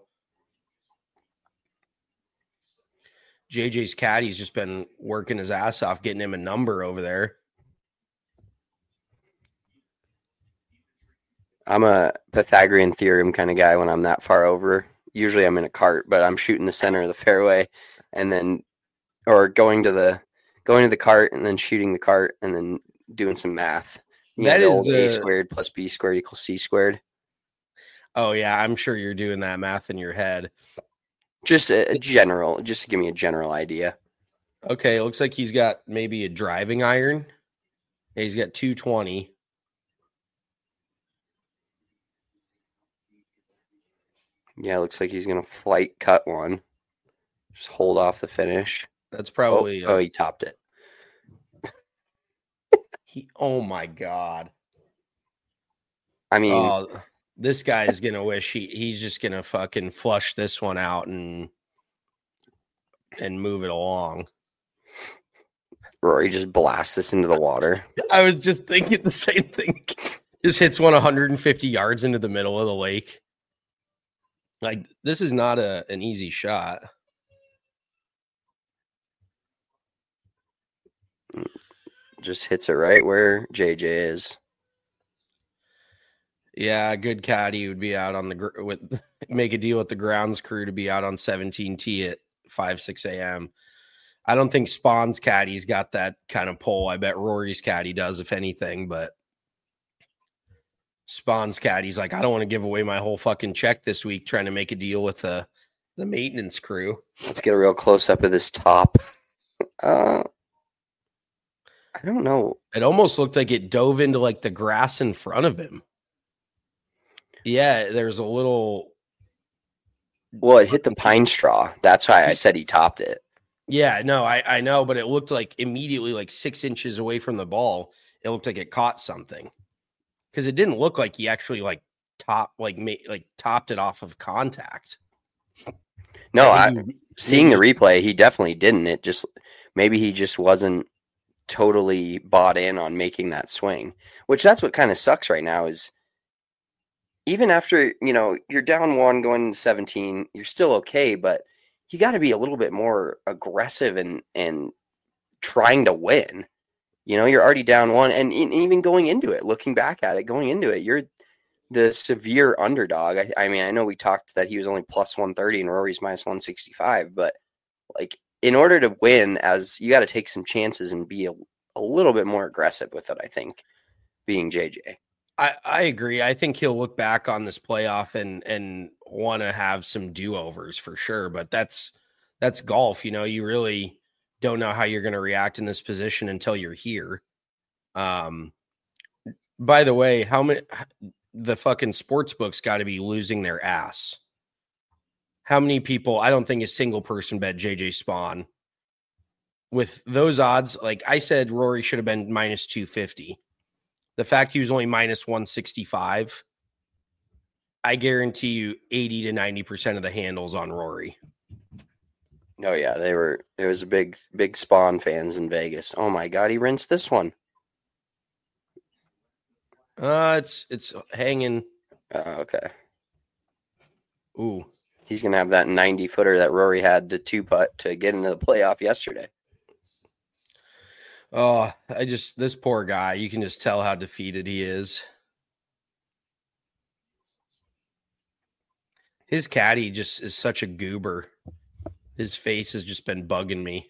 J J's caddy's just been working his ass off, getting him a number over there. I'm a Pythagorean theorem kind of guy when I'm that far over. Usually I'm in a cart, but I'm shooting the center of the fairway and then, or going to the, going to the cart and then shooting the cart and then doing some math. You that know, is the the A squared plus B squared equals C squared. Oh yeah. I'm sure you're doing that math in your head. Just a, a general, just to give me a general idea. Okay. It looks like he's got maybe a driving iron. Yeah, he's got two twenty. Yeah, it looks like he's going to flight cut one. Just hold off the finish. That's probably... Oh, uh, oh he topped it. he. Oh, my God. I mean... Oh, this guy is going to wish he, he's just going to fucking flush this one out and and move it along. Rory just blasts this into the water. I was just thinking the same thing. Just hits one one hundred fifty yards into the middle of the lake. Like, this is not a an easy shot. Just hits it right where J J is. Yeah, a good caddy would be out on the gr- with make a deal with the grounds crew to be out on seventeen T at five, six a.m. I don't think Spawn's caddy's got that kind of pull. I bet Rory's caddy does, if anything, but Spawn's caddy's like, I don't want to give away my whole fucking check this week trying to make a deal with the, the maintenance crew. Let's get a real close up of this top. Uh, I don't know. It almost looked like it dove into like the grass in front of him. Yeah, there's a little. Well, it hit the pine straw. That's why I said he topped it. Yeah, no, I, I know, but it looked like immediately like six inches away from the ball, it looked like it caught something. Because it didn't look like he actually like top like made, like topped it off of contact. No, I, I seeing the replay, he definitely didn't. It just maybe he just wasn't totally bought in on making that swing, which that's what kind of sucks right now is even after, you know, you're down one going to seventeen, you're still okay, but you got to be a little bit more aggressive and and trying to win. You know, you're already down one, and even going into it, looking back at it, going into it, you're the severe underdog. I, I mean, I know we talked that he was only plus one thirty and Rory's minus one sixty-five, but like in order to win, as you got to take some chances and be a, a little bit more aggressive with it, I think, being J J. I, I agree. I think he'll look back on this playoff and and want to have some do-overs for sure, but that's that's golf. You know, you really don't know how you're going to react in this position until you're here. Um, by the way, how many the fucking sports books got to be losing their ass? How many people? I don't think a single person bet J J Spawn with those odds. Like I said, Rory should have been minus two fifty. The fact he was only minus one sixty-five, I guarantee you eighty to ninety percent of the handles on Rory. Oh yeah, they were. It was a big, big Spawn fans in Vegas. Oh my God, he rinsed this one. Uh, it's it's hanging. Uh, okay. Ooh, he's gonna have that ninety footer that Rory had to two putt to get into the playoff yesterday. Oh, I just, this poor guy, you can just tell how defeated he is. His caddy just is such a goober. His face has just been bugging me.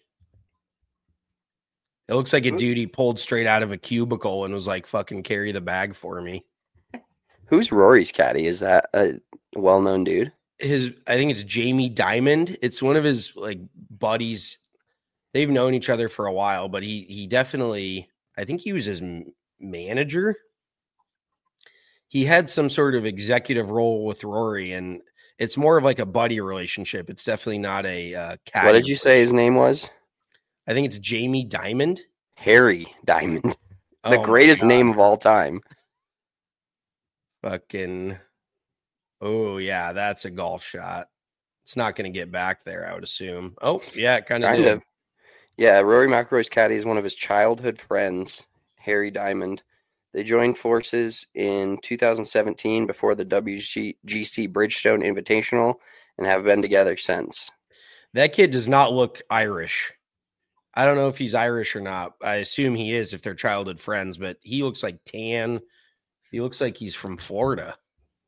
It looks like a dude he pulled straight out of a cubicle and was like, fucking carry the bag for me. Who's Rory's caddy? Is that a well-known dude? His, I think it's Jamie Dimon. It's one of his like buddies. They've known each other for a while, but he he definitely, I think he was his manager. He had some sort of executive role with Rory, and it's more of like a buddy relationship. It's definitely not a uh, caddy. What did you say his name was? I think it's Jamie Diamond. Harry Diamond. The Oh greatest name of all time. Fucking, oh, yeah, that's a golf shot. It's not going to get back there, I would assume. Oh, yeah, it kind of did. Yeah, Rory McIlroy's caddy is one of his childhood friends, Harry Diamond. They joined forces in two thousand seventeen before the W G C Bridgestone Invitational and have been together since. That kid does not look Irish. I don't know if he's Irish or not. I assume he is if they're childhood friends, but he looks like tan. He looks like he's from Florida.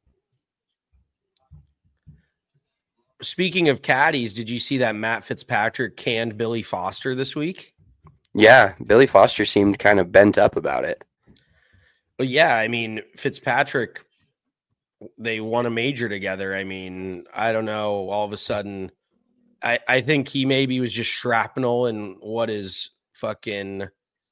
Speaking of caddies, did you see that Matt Fitzpatrick canned Billy Foster this week? Yeah, Billy Foster seemed kind of bent up about it. Well, yeah, I mean, Fitzpatrick, they won a major together. I mean, I don't know, all of a sudden, I, I think he maybe was just shrapnel in what is fucking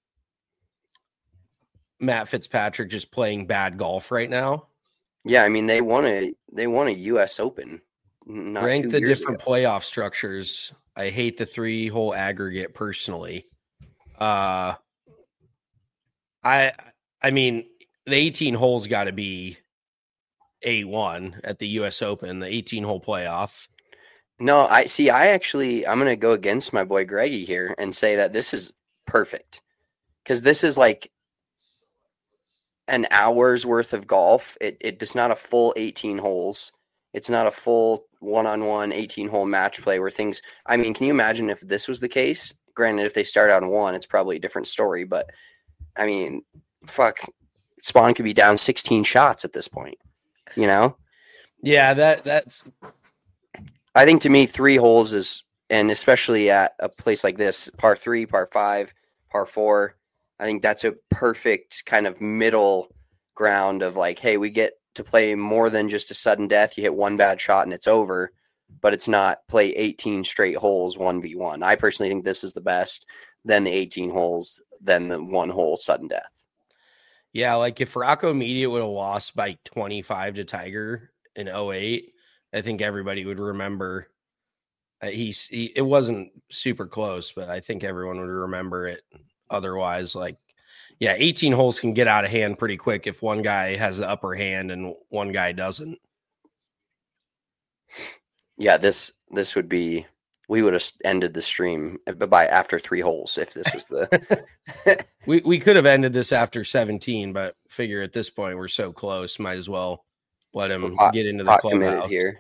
Matt Fitzpatrick just playing bad golf right now. Yeah, I mean, they won a they won a U S Open. Not Rank the different ago. playoff structures. I hate the three hole aggregate personally. Uh, I I mean, the eighteen holes got to be A one at the U S Open, the eighteen hole playoff. No, I see. I actually, I'm going to go against my boy Greggy here and say that this is perfect because this is like an hour's worth of golf. It it it's not a full eighteen holes. It's not a full one-on-one eighteen-hole match play where things – I mean, can you imagine if this was the case? Granted, if they start out in one, it's probably a different story. But, I mean, fuck, Spawn could be down sixteen shots at this point, you know? Yeah, that that's – I think to me, three holes is – and especially at a place like this, par three, par five, par four, I think that's a perfect kind of middle ground of like, hey, we get – to play more than just a sudden death. You hit one bad shot and it's over, but it's not play eighteen straight holes one v one. I personally think this is the best, then the eighteen holes, then the one hole sudden death. Yeah, like if Rocco Media would have lost by twenty-five to Tiger in oh eight, I think everybody would remember. Uh, he's he, it wasn't super close, but I think everyone would remember it. Otherwise, like, yeah, eighteen holes can get out of hand pretty quick if one guy has the upper hand and one guy doesn't. Yeah, this this would be we would have ended the stream by after three holes if this was the we we could have ended this after seventeen, but figure at this point we're so close, might as well let him hot, get into the clubhouse here.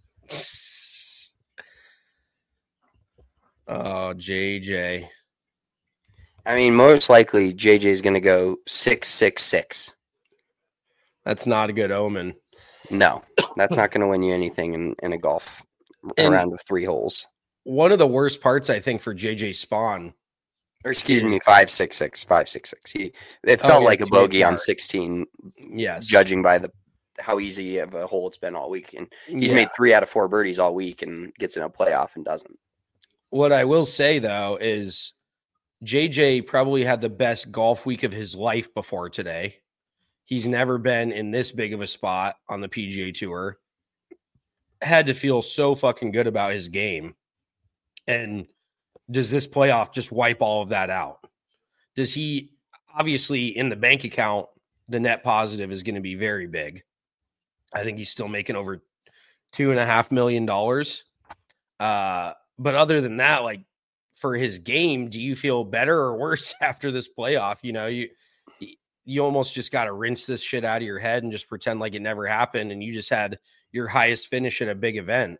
Oh, J J. I mean, most likely J J is going to go six, six, six. That's not a good omen. No, that's not going to win you anything in, in a golf and round of three holes. One of the worst parts, I think, for J J Spawn, or excuse me, five, six, six, five, six, six. He it felt oh, yeah, like a bogey on sixteen. Yes, judging by the how easy of a hole it's been all week, and he's yeah. made three out of four birdies all week, and gets in a playoff and doesn't. What I will say though is, J J probably had the best golf week of his life before today. He's never been in this big of a spot on the P G A Tour. Had to feel so fucking good about his game. And does this playoff just wipe all of that out? Does he, obviously in the bank account, the net positive is going to be very big. I think he's still making over two and a half million dollars. Uh, but other than that, like, for his game, do you feel better or worse after this playoff? You know, you you almost just got to rinse this shit out of your head and just pretend like it never happened, and you just had your highest finish at a big event.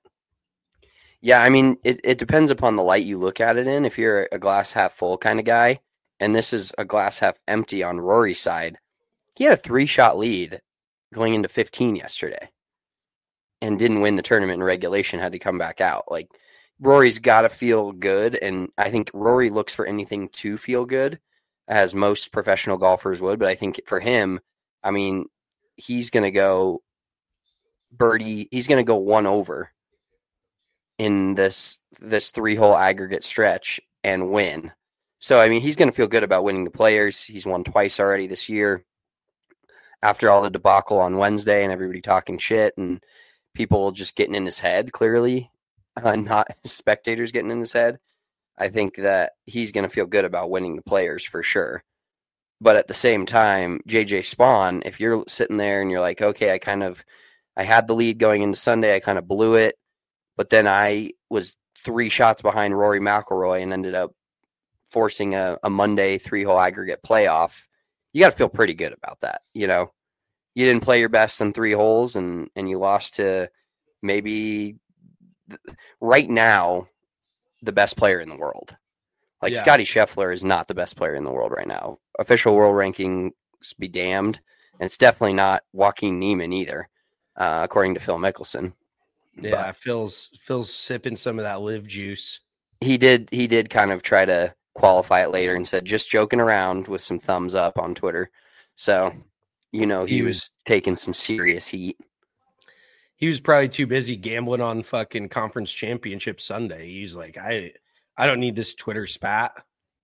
Yeah, I mean, it, it depends upon the light you look at it in. If you're a glass half full kind of guy and this is a glass half empty on Rory's side, he had a three-shot lead going into fifteen yesterday and didn't win the tournament in regulation, had to come back out. Like, Rory's got to feel good, and I think Rory looks for anything to feel good, as most professional golfers would. But I think for him, I mean, he's going to go birdie. He's going to go one over in this this three-hole aggregate stretch and win. So, I mean, he's going to feel good about winning the Players. He's won twice already this year. After all the debacle on Wednesday and everybody talking shit and people just getting in his head, clearly, uh, not spectators getting in his head, I think that he's going to feel good about winning the Players for sure. But at the same time, J J Spaun, if you're sitting there and you're like, okay, I kind of, I had the lead going into Sunday, I kind of blew it, but then I was three shots behind Rory McIlroy and ended up forcing a, a Monday three-hole aggregate playoff, you got to feel pretty good about that. You know, you didn't play your best in three holes and, and you lost to maybe right now the best player in the world. Like, yeah. Scotty Scheffler is not the best player in the world right now. Official world rankings be damned. And it's definitely not Joaquin Niemann either, uh, according to Phil Mickelson. Yeah, but Phil's Phil's sipping some of that live juice. He did he did kind of try to qualify it later and said, just joking around, with some thumbs up on Twitter. So, you know, he, he was, was taking some serious heat. He was probably too busy gambling on fucking conference championship Sunday. He's like, I I don't need this Twitter spat.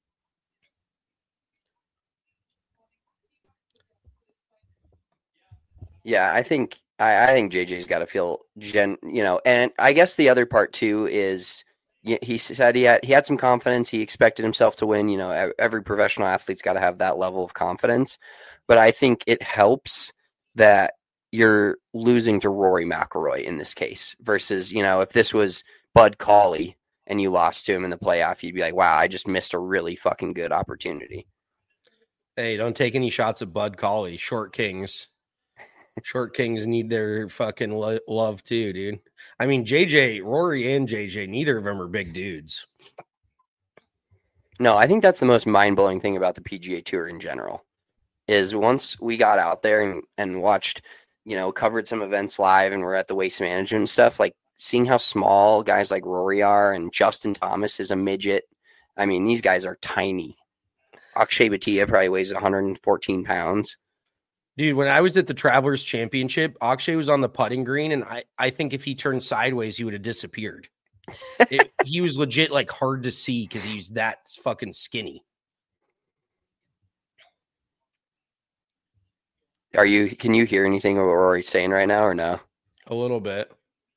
Yeah, I think I, I think J J's got to feel gen, you know, and I guess the other part too is he said he had he had some confidence. He expected himself to win. You know, every professional athlete's got to have that level of confidence. But I think it helps that you're losing to Rory McIlroy in this case versus, you know, if this was Bud Cauley and you lost to him in the playoff, you'd be like, wow, I just missed a really fucking good opportunity. Hey, don't take any shots at Bud Cauley. Short Kings. Short Kings need their fucking lo- love too, dude. I mean, J J, Rory and J J, neither of them are big dudes. No, I think that's the most mind-blowing thing about the P G A Tour in general is once we got out there and, and watched, you know, covered some events live and we're at the Waste Management and stuff, like seeing how small guys like Rory are and Justin Thomas is a midget. I mean, these guys are tiny. Akshay Bhatia probably weighs one hundred fourteen pounds. Dude, when I was at the Travelers Championship, Akshay was on the putting green, and I, I think if he turned sideways, he would have disappeared. it, he was legit, like, hard to see because he's that fucking skinny. Are you? Can you hear anything of what Rory's saying right now or no? A little bit.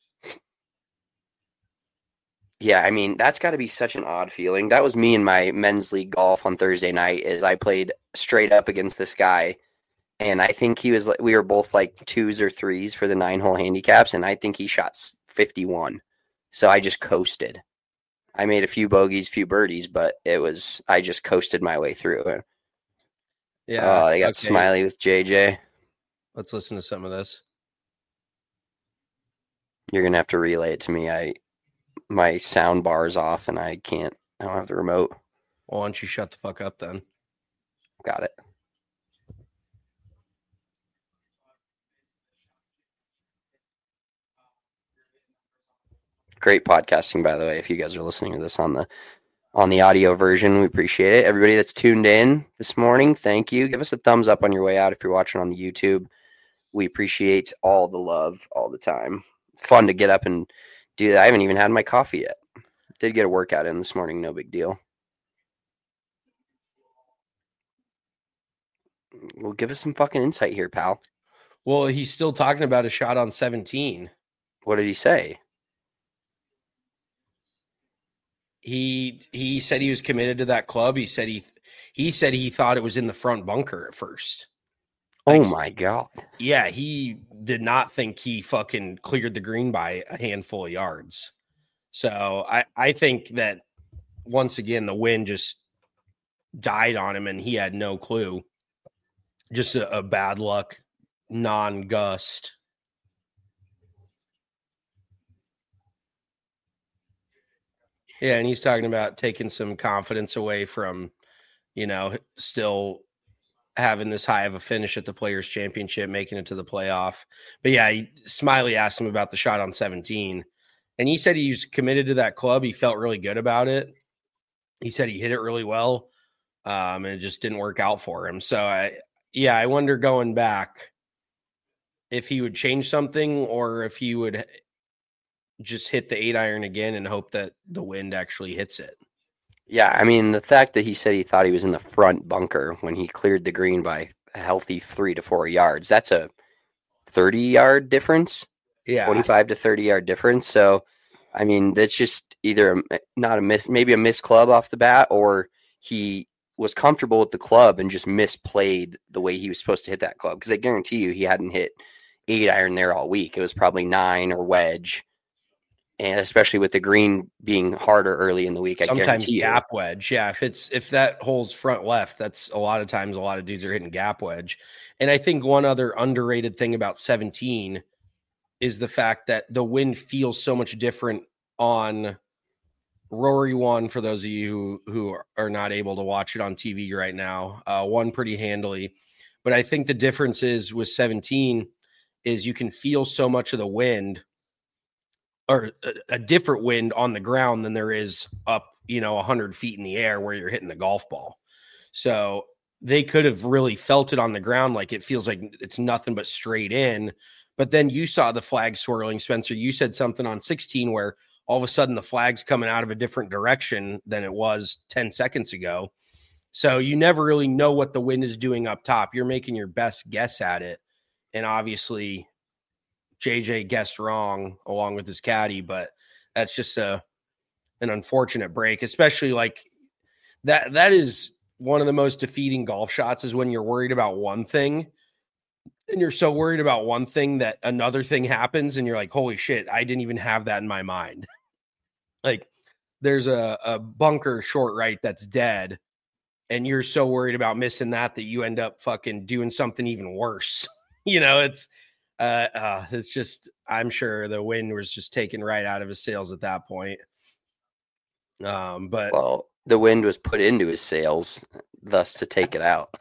Yeah, I mean, that's got to be such an odd feeling. That was me in my men's league golf on Thursday night is I played straight up against this guy. And I think he was, we were both like twos or threes for the nine hole handicaps. And I think he shot fifty-one. So I just coasted. I made a few bogeys, few birdies, but it was, I just coasted my way through it. Yeah. Oh, they got okay. Smiley with J J. Let's listen to some of this. You're going to have to relay it to me. I, my sound bar is off and I can't, I don't have the remote. Well, why don't you shut the fuck up then? Got it. Great podcasting, by the way. If you guys are listening to this on the on the audio version, we appreciate it. Everybody that's tuned in this morning, thank you. Give us a thumbs up on your way out if you're watching on the YouTube. We appreciate all the love all the time. It's fun to get up and do that. I haven't even had my coffee yet. Did get a workout in this morning, no big deal. Well, give us some fucking insight here, pal. Well, he's still talking about a shot on seventeen. What did he say? He he said he was committed to that club. He said he he said he thought it was in the front bunker at first. Like, oh my God. Yeah, he did not think he fucking cleared the green by a handful of yards. So I, I think that once again the wind just died on him and he had no clue. Just a, a bad luck non-gust. Yeah, and he's talking about taking some confidence away from you know, still having this high of a finish at the Players Championship, making it to the playoff. But yeah, he, Smiley asked him about the shot on seventeen, and he said he's committed to that club. He felt really good about it. He said he hit it really well, um, and it just didn't work out for him. So I, yeah, I wonder going back if he would change something or if he would just hit the eight iron again and hope that the wind actually hits it. Yeah, I mean, the fact that he said he thought he was in the front bunker when he cleared the green by a healthy three to four yards, that's a thirty-yard difference. Yeah. twenty-five to thirty-yard difference. So, I mean, that's just either a, not a miss, maybe a missed club off the bat, or he was comfortable with the club and just misplayed the way he was supposed to hit that club. Because I guarantee you he hadn't hit eight iron there all week. It was probably nine or wedge. And especially with the green being harder early in the week, I sometimes guarantee gap you. wedge. Yeah, if it's if that hole's front left, that's a lot of times a lot of dudes are hitting gap wedge. And I think one other underrated thing about seventeen is the fact that the wind feels so much different on Rory one. For those of you who, who are not able to watch it on T V right now, uh, won pretty handily. But I think the difference is with seventeen is you can feel so much of the wind, or a, a different wind on the ground than there is up, you know, a hundred feet in the air where you're hitting the golf ball. So they could have really felt it on the ground. Like it feels like it's nothing but straight in, but then you saw the flag swirling. Spencer, you said something on sixteen where all of a sudden the flag's coming out of a different direction than it was ten seconds ago. So you never really know what the wind is doing up top. You're making your best guess at it. And obviously J J guessed wrong along with his caddy, but that's just a an unfortunate break, especially like that. That is one of the most defeating golf shots, is when you're worried about one thing and you're so worried about one thing that another thing happens and you're like, holy shit, I didn't even have that in my mind. Like there's a, a bunker short right that's dead, and you're so worried about missing that that you end up fucking doing something even worse. You know, it's Uh, uh, it's just, I'm sure the wind was just taken right out of his sails at that point. Um, but well, the wind was put into his sails, thus to take it out.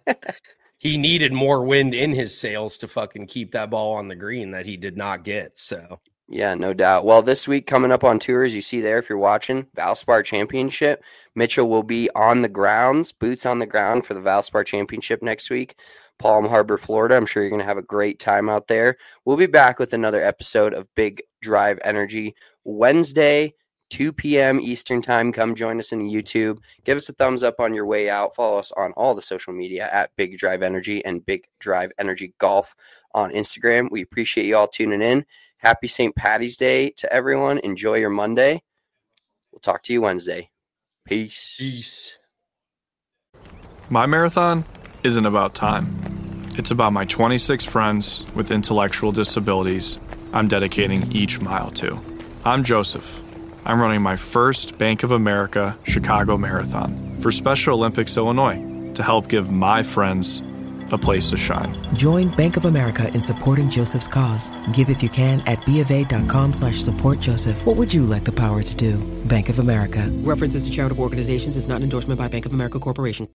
He needed more wind in his sails to fucking keep that ball on the green that he did not get. So yeah, no doubt. Well, this week coming up on tour, as you see there, if you're watching, Valspar Championship, Mitchell will be on the grounds, boots on the ground for the Valspar Championship next week. Palm Harbor, Florida. I'm sure you're going to have a great time out there. We'll be back with another episode of Big Drive Energy Wednesday, two p.m. Eastern time. Come join us in YouTube. Give us a thumbs up on your way out. Follow us on all the social media at Big Drive Energy and Big Drive Energy Golf on Instagram. We appreciate you all tuning in. Happy Saint Patty's Day to everyone. Enjoy your Monday. We'll talk to you Wednesday. Peace. Peace. My marathon isn't about time. It's about my twenty-six friends with intellectual disabilities I'm dedicating each mile to. I'm Joseph. I'm running my first Bank of America Chicago Marathon for Special Olympics Illinois to help give my friends a place to shine. Join Bank of America in supporting Joseph's cause. Give if you can at bofa.com slash support Joseph. What would you like the power to do? Bank of America. References to charitable organizations is not an endorsement by Bank of America Corporation.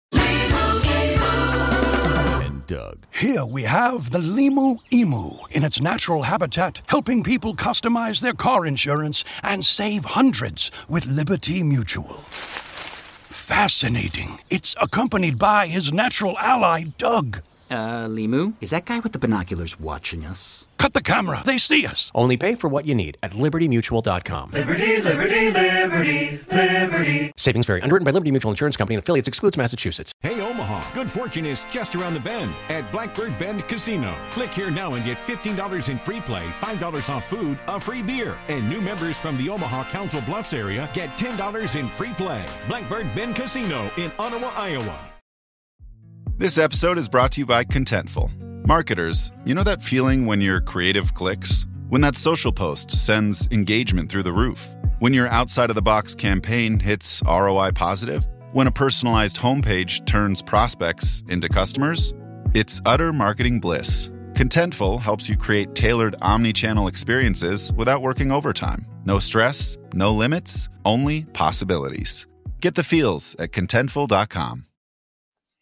Doug. Here we have the Limu Emu in its natural habitat, helping people customize their car insurance and save hundreds with Liberty Mutual. Fascinating. It's accompanied by his natural ally, Doug. Uh, Limu? Is that guy with the binoculars watching us? Cut the camera. They see us. Only pay for what you need at liberty mutual dot com. Liberty, liberty, liberty, liberty. Savings vary. Underwritten by Liberty Mutual Insurance Company and affiliates. Excludes Massachusetts. Hey, Omaha. Good fortune is just around the bend at Blackbird Bend Casino. Click here now and get fifteen dollars in free play, five dollars off food, a free beer. And new members from the Omaha Council Bluffs area get ten dollars in free play. Blackbird Bend Casino in Ottawa, Iowa. This episode is brought to you by Contentful. Marketers, you know that feeling when your creative clicks? When that social post sends engagement through the roof? When your outside-of-the-box campaign hits R O I positive? When a personalized homepage turns prospects into customers? It's utter marketing bliss. Contentful helps you create tailored omni-channel experiences without working overtime. No stress, no limits, only possibilities. Get the feels at contentful dot com.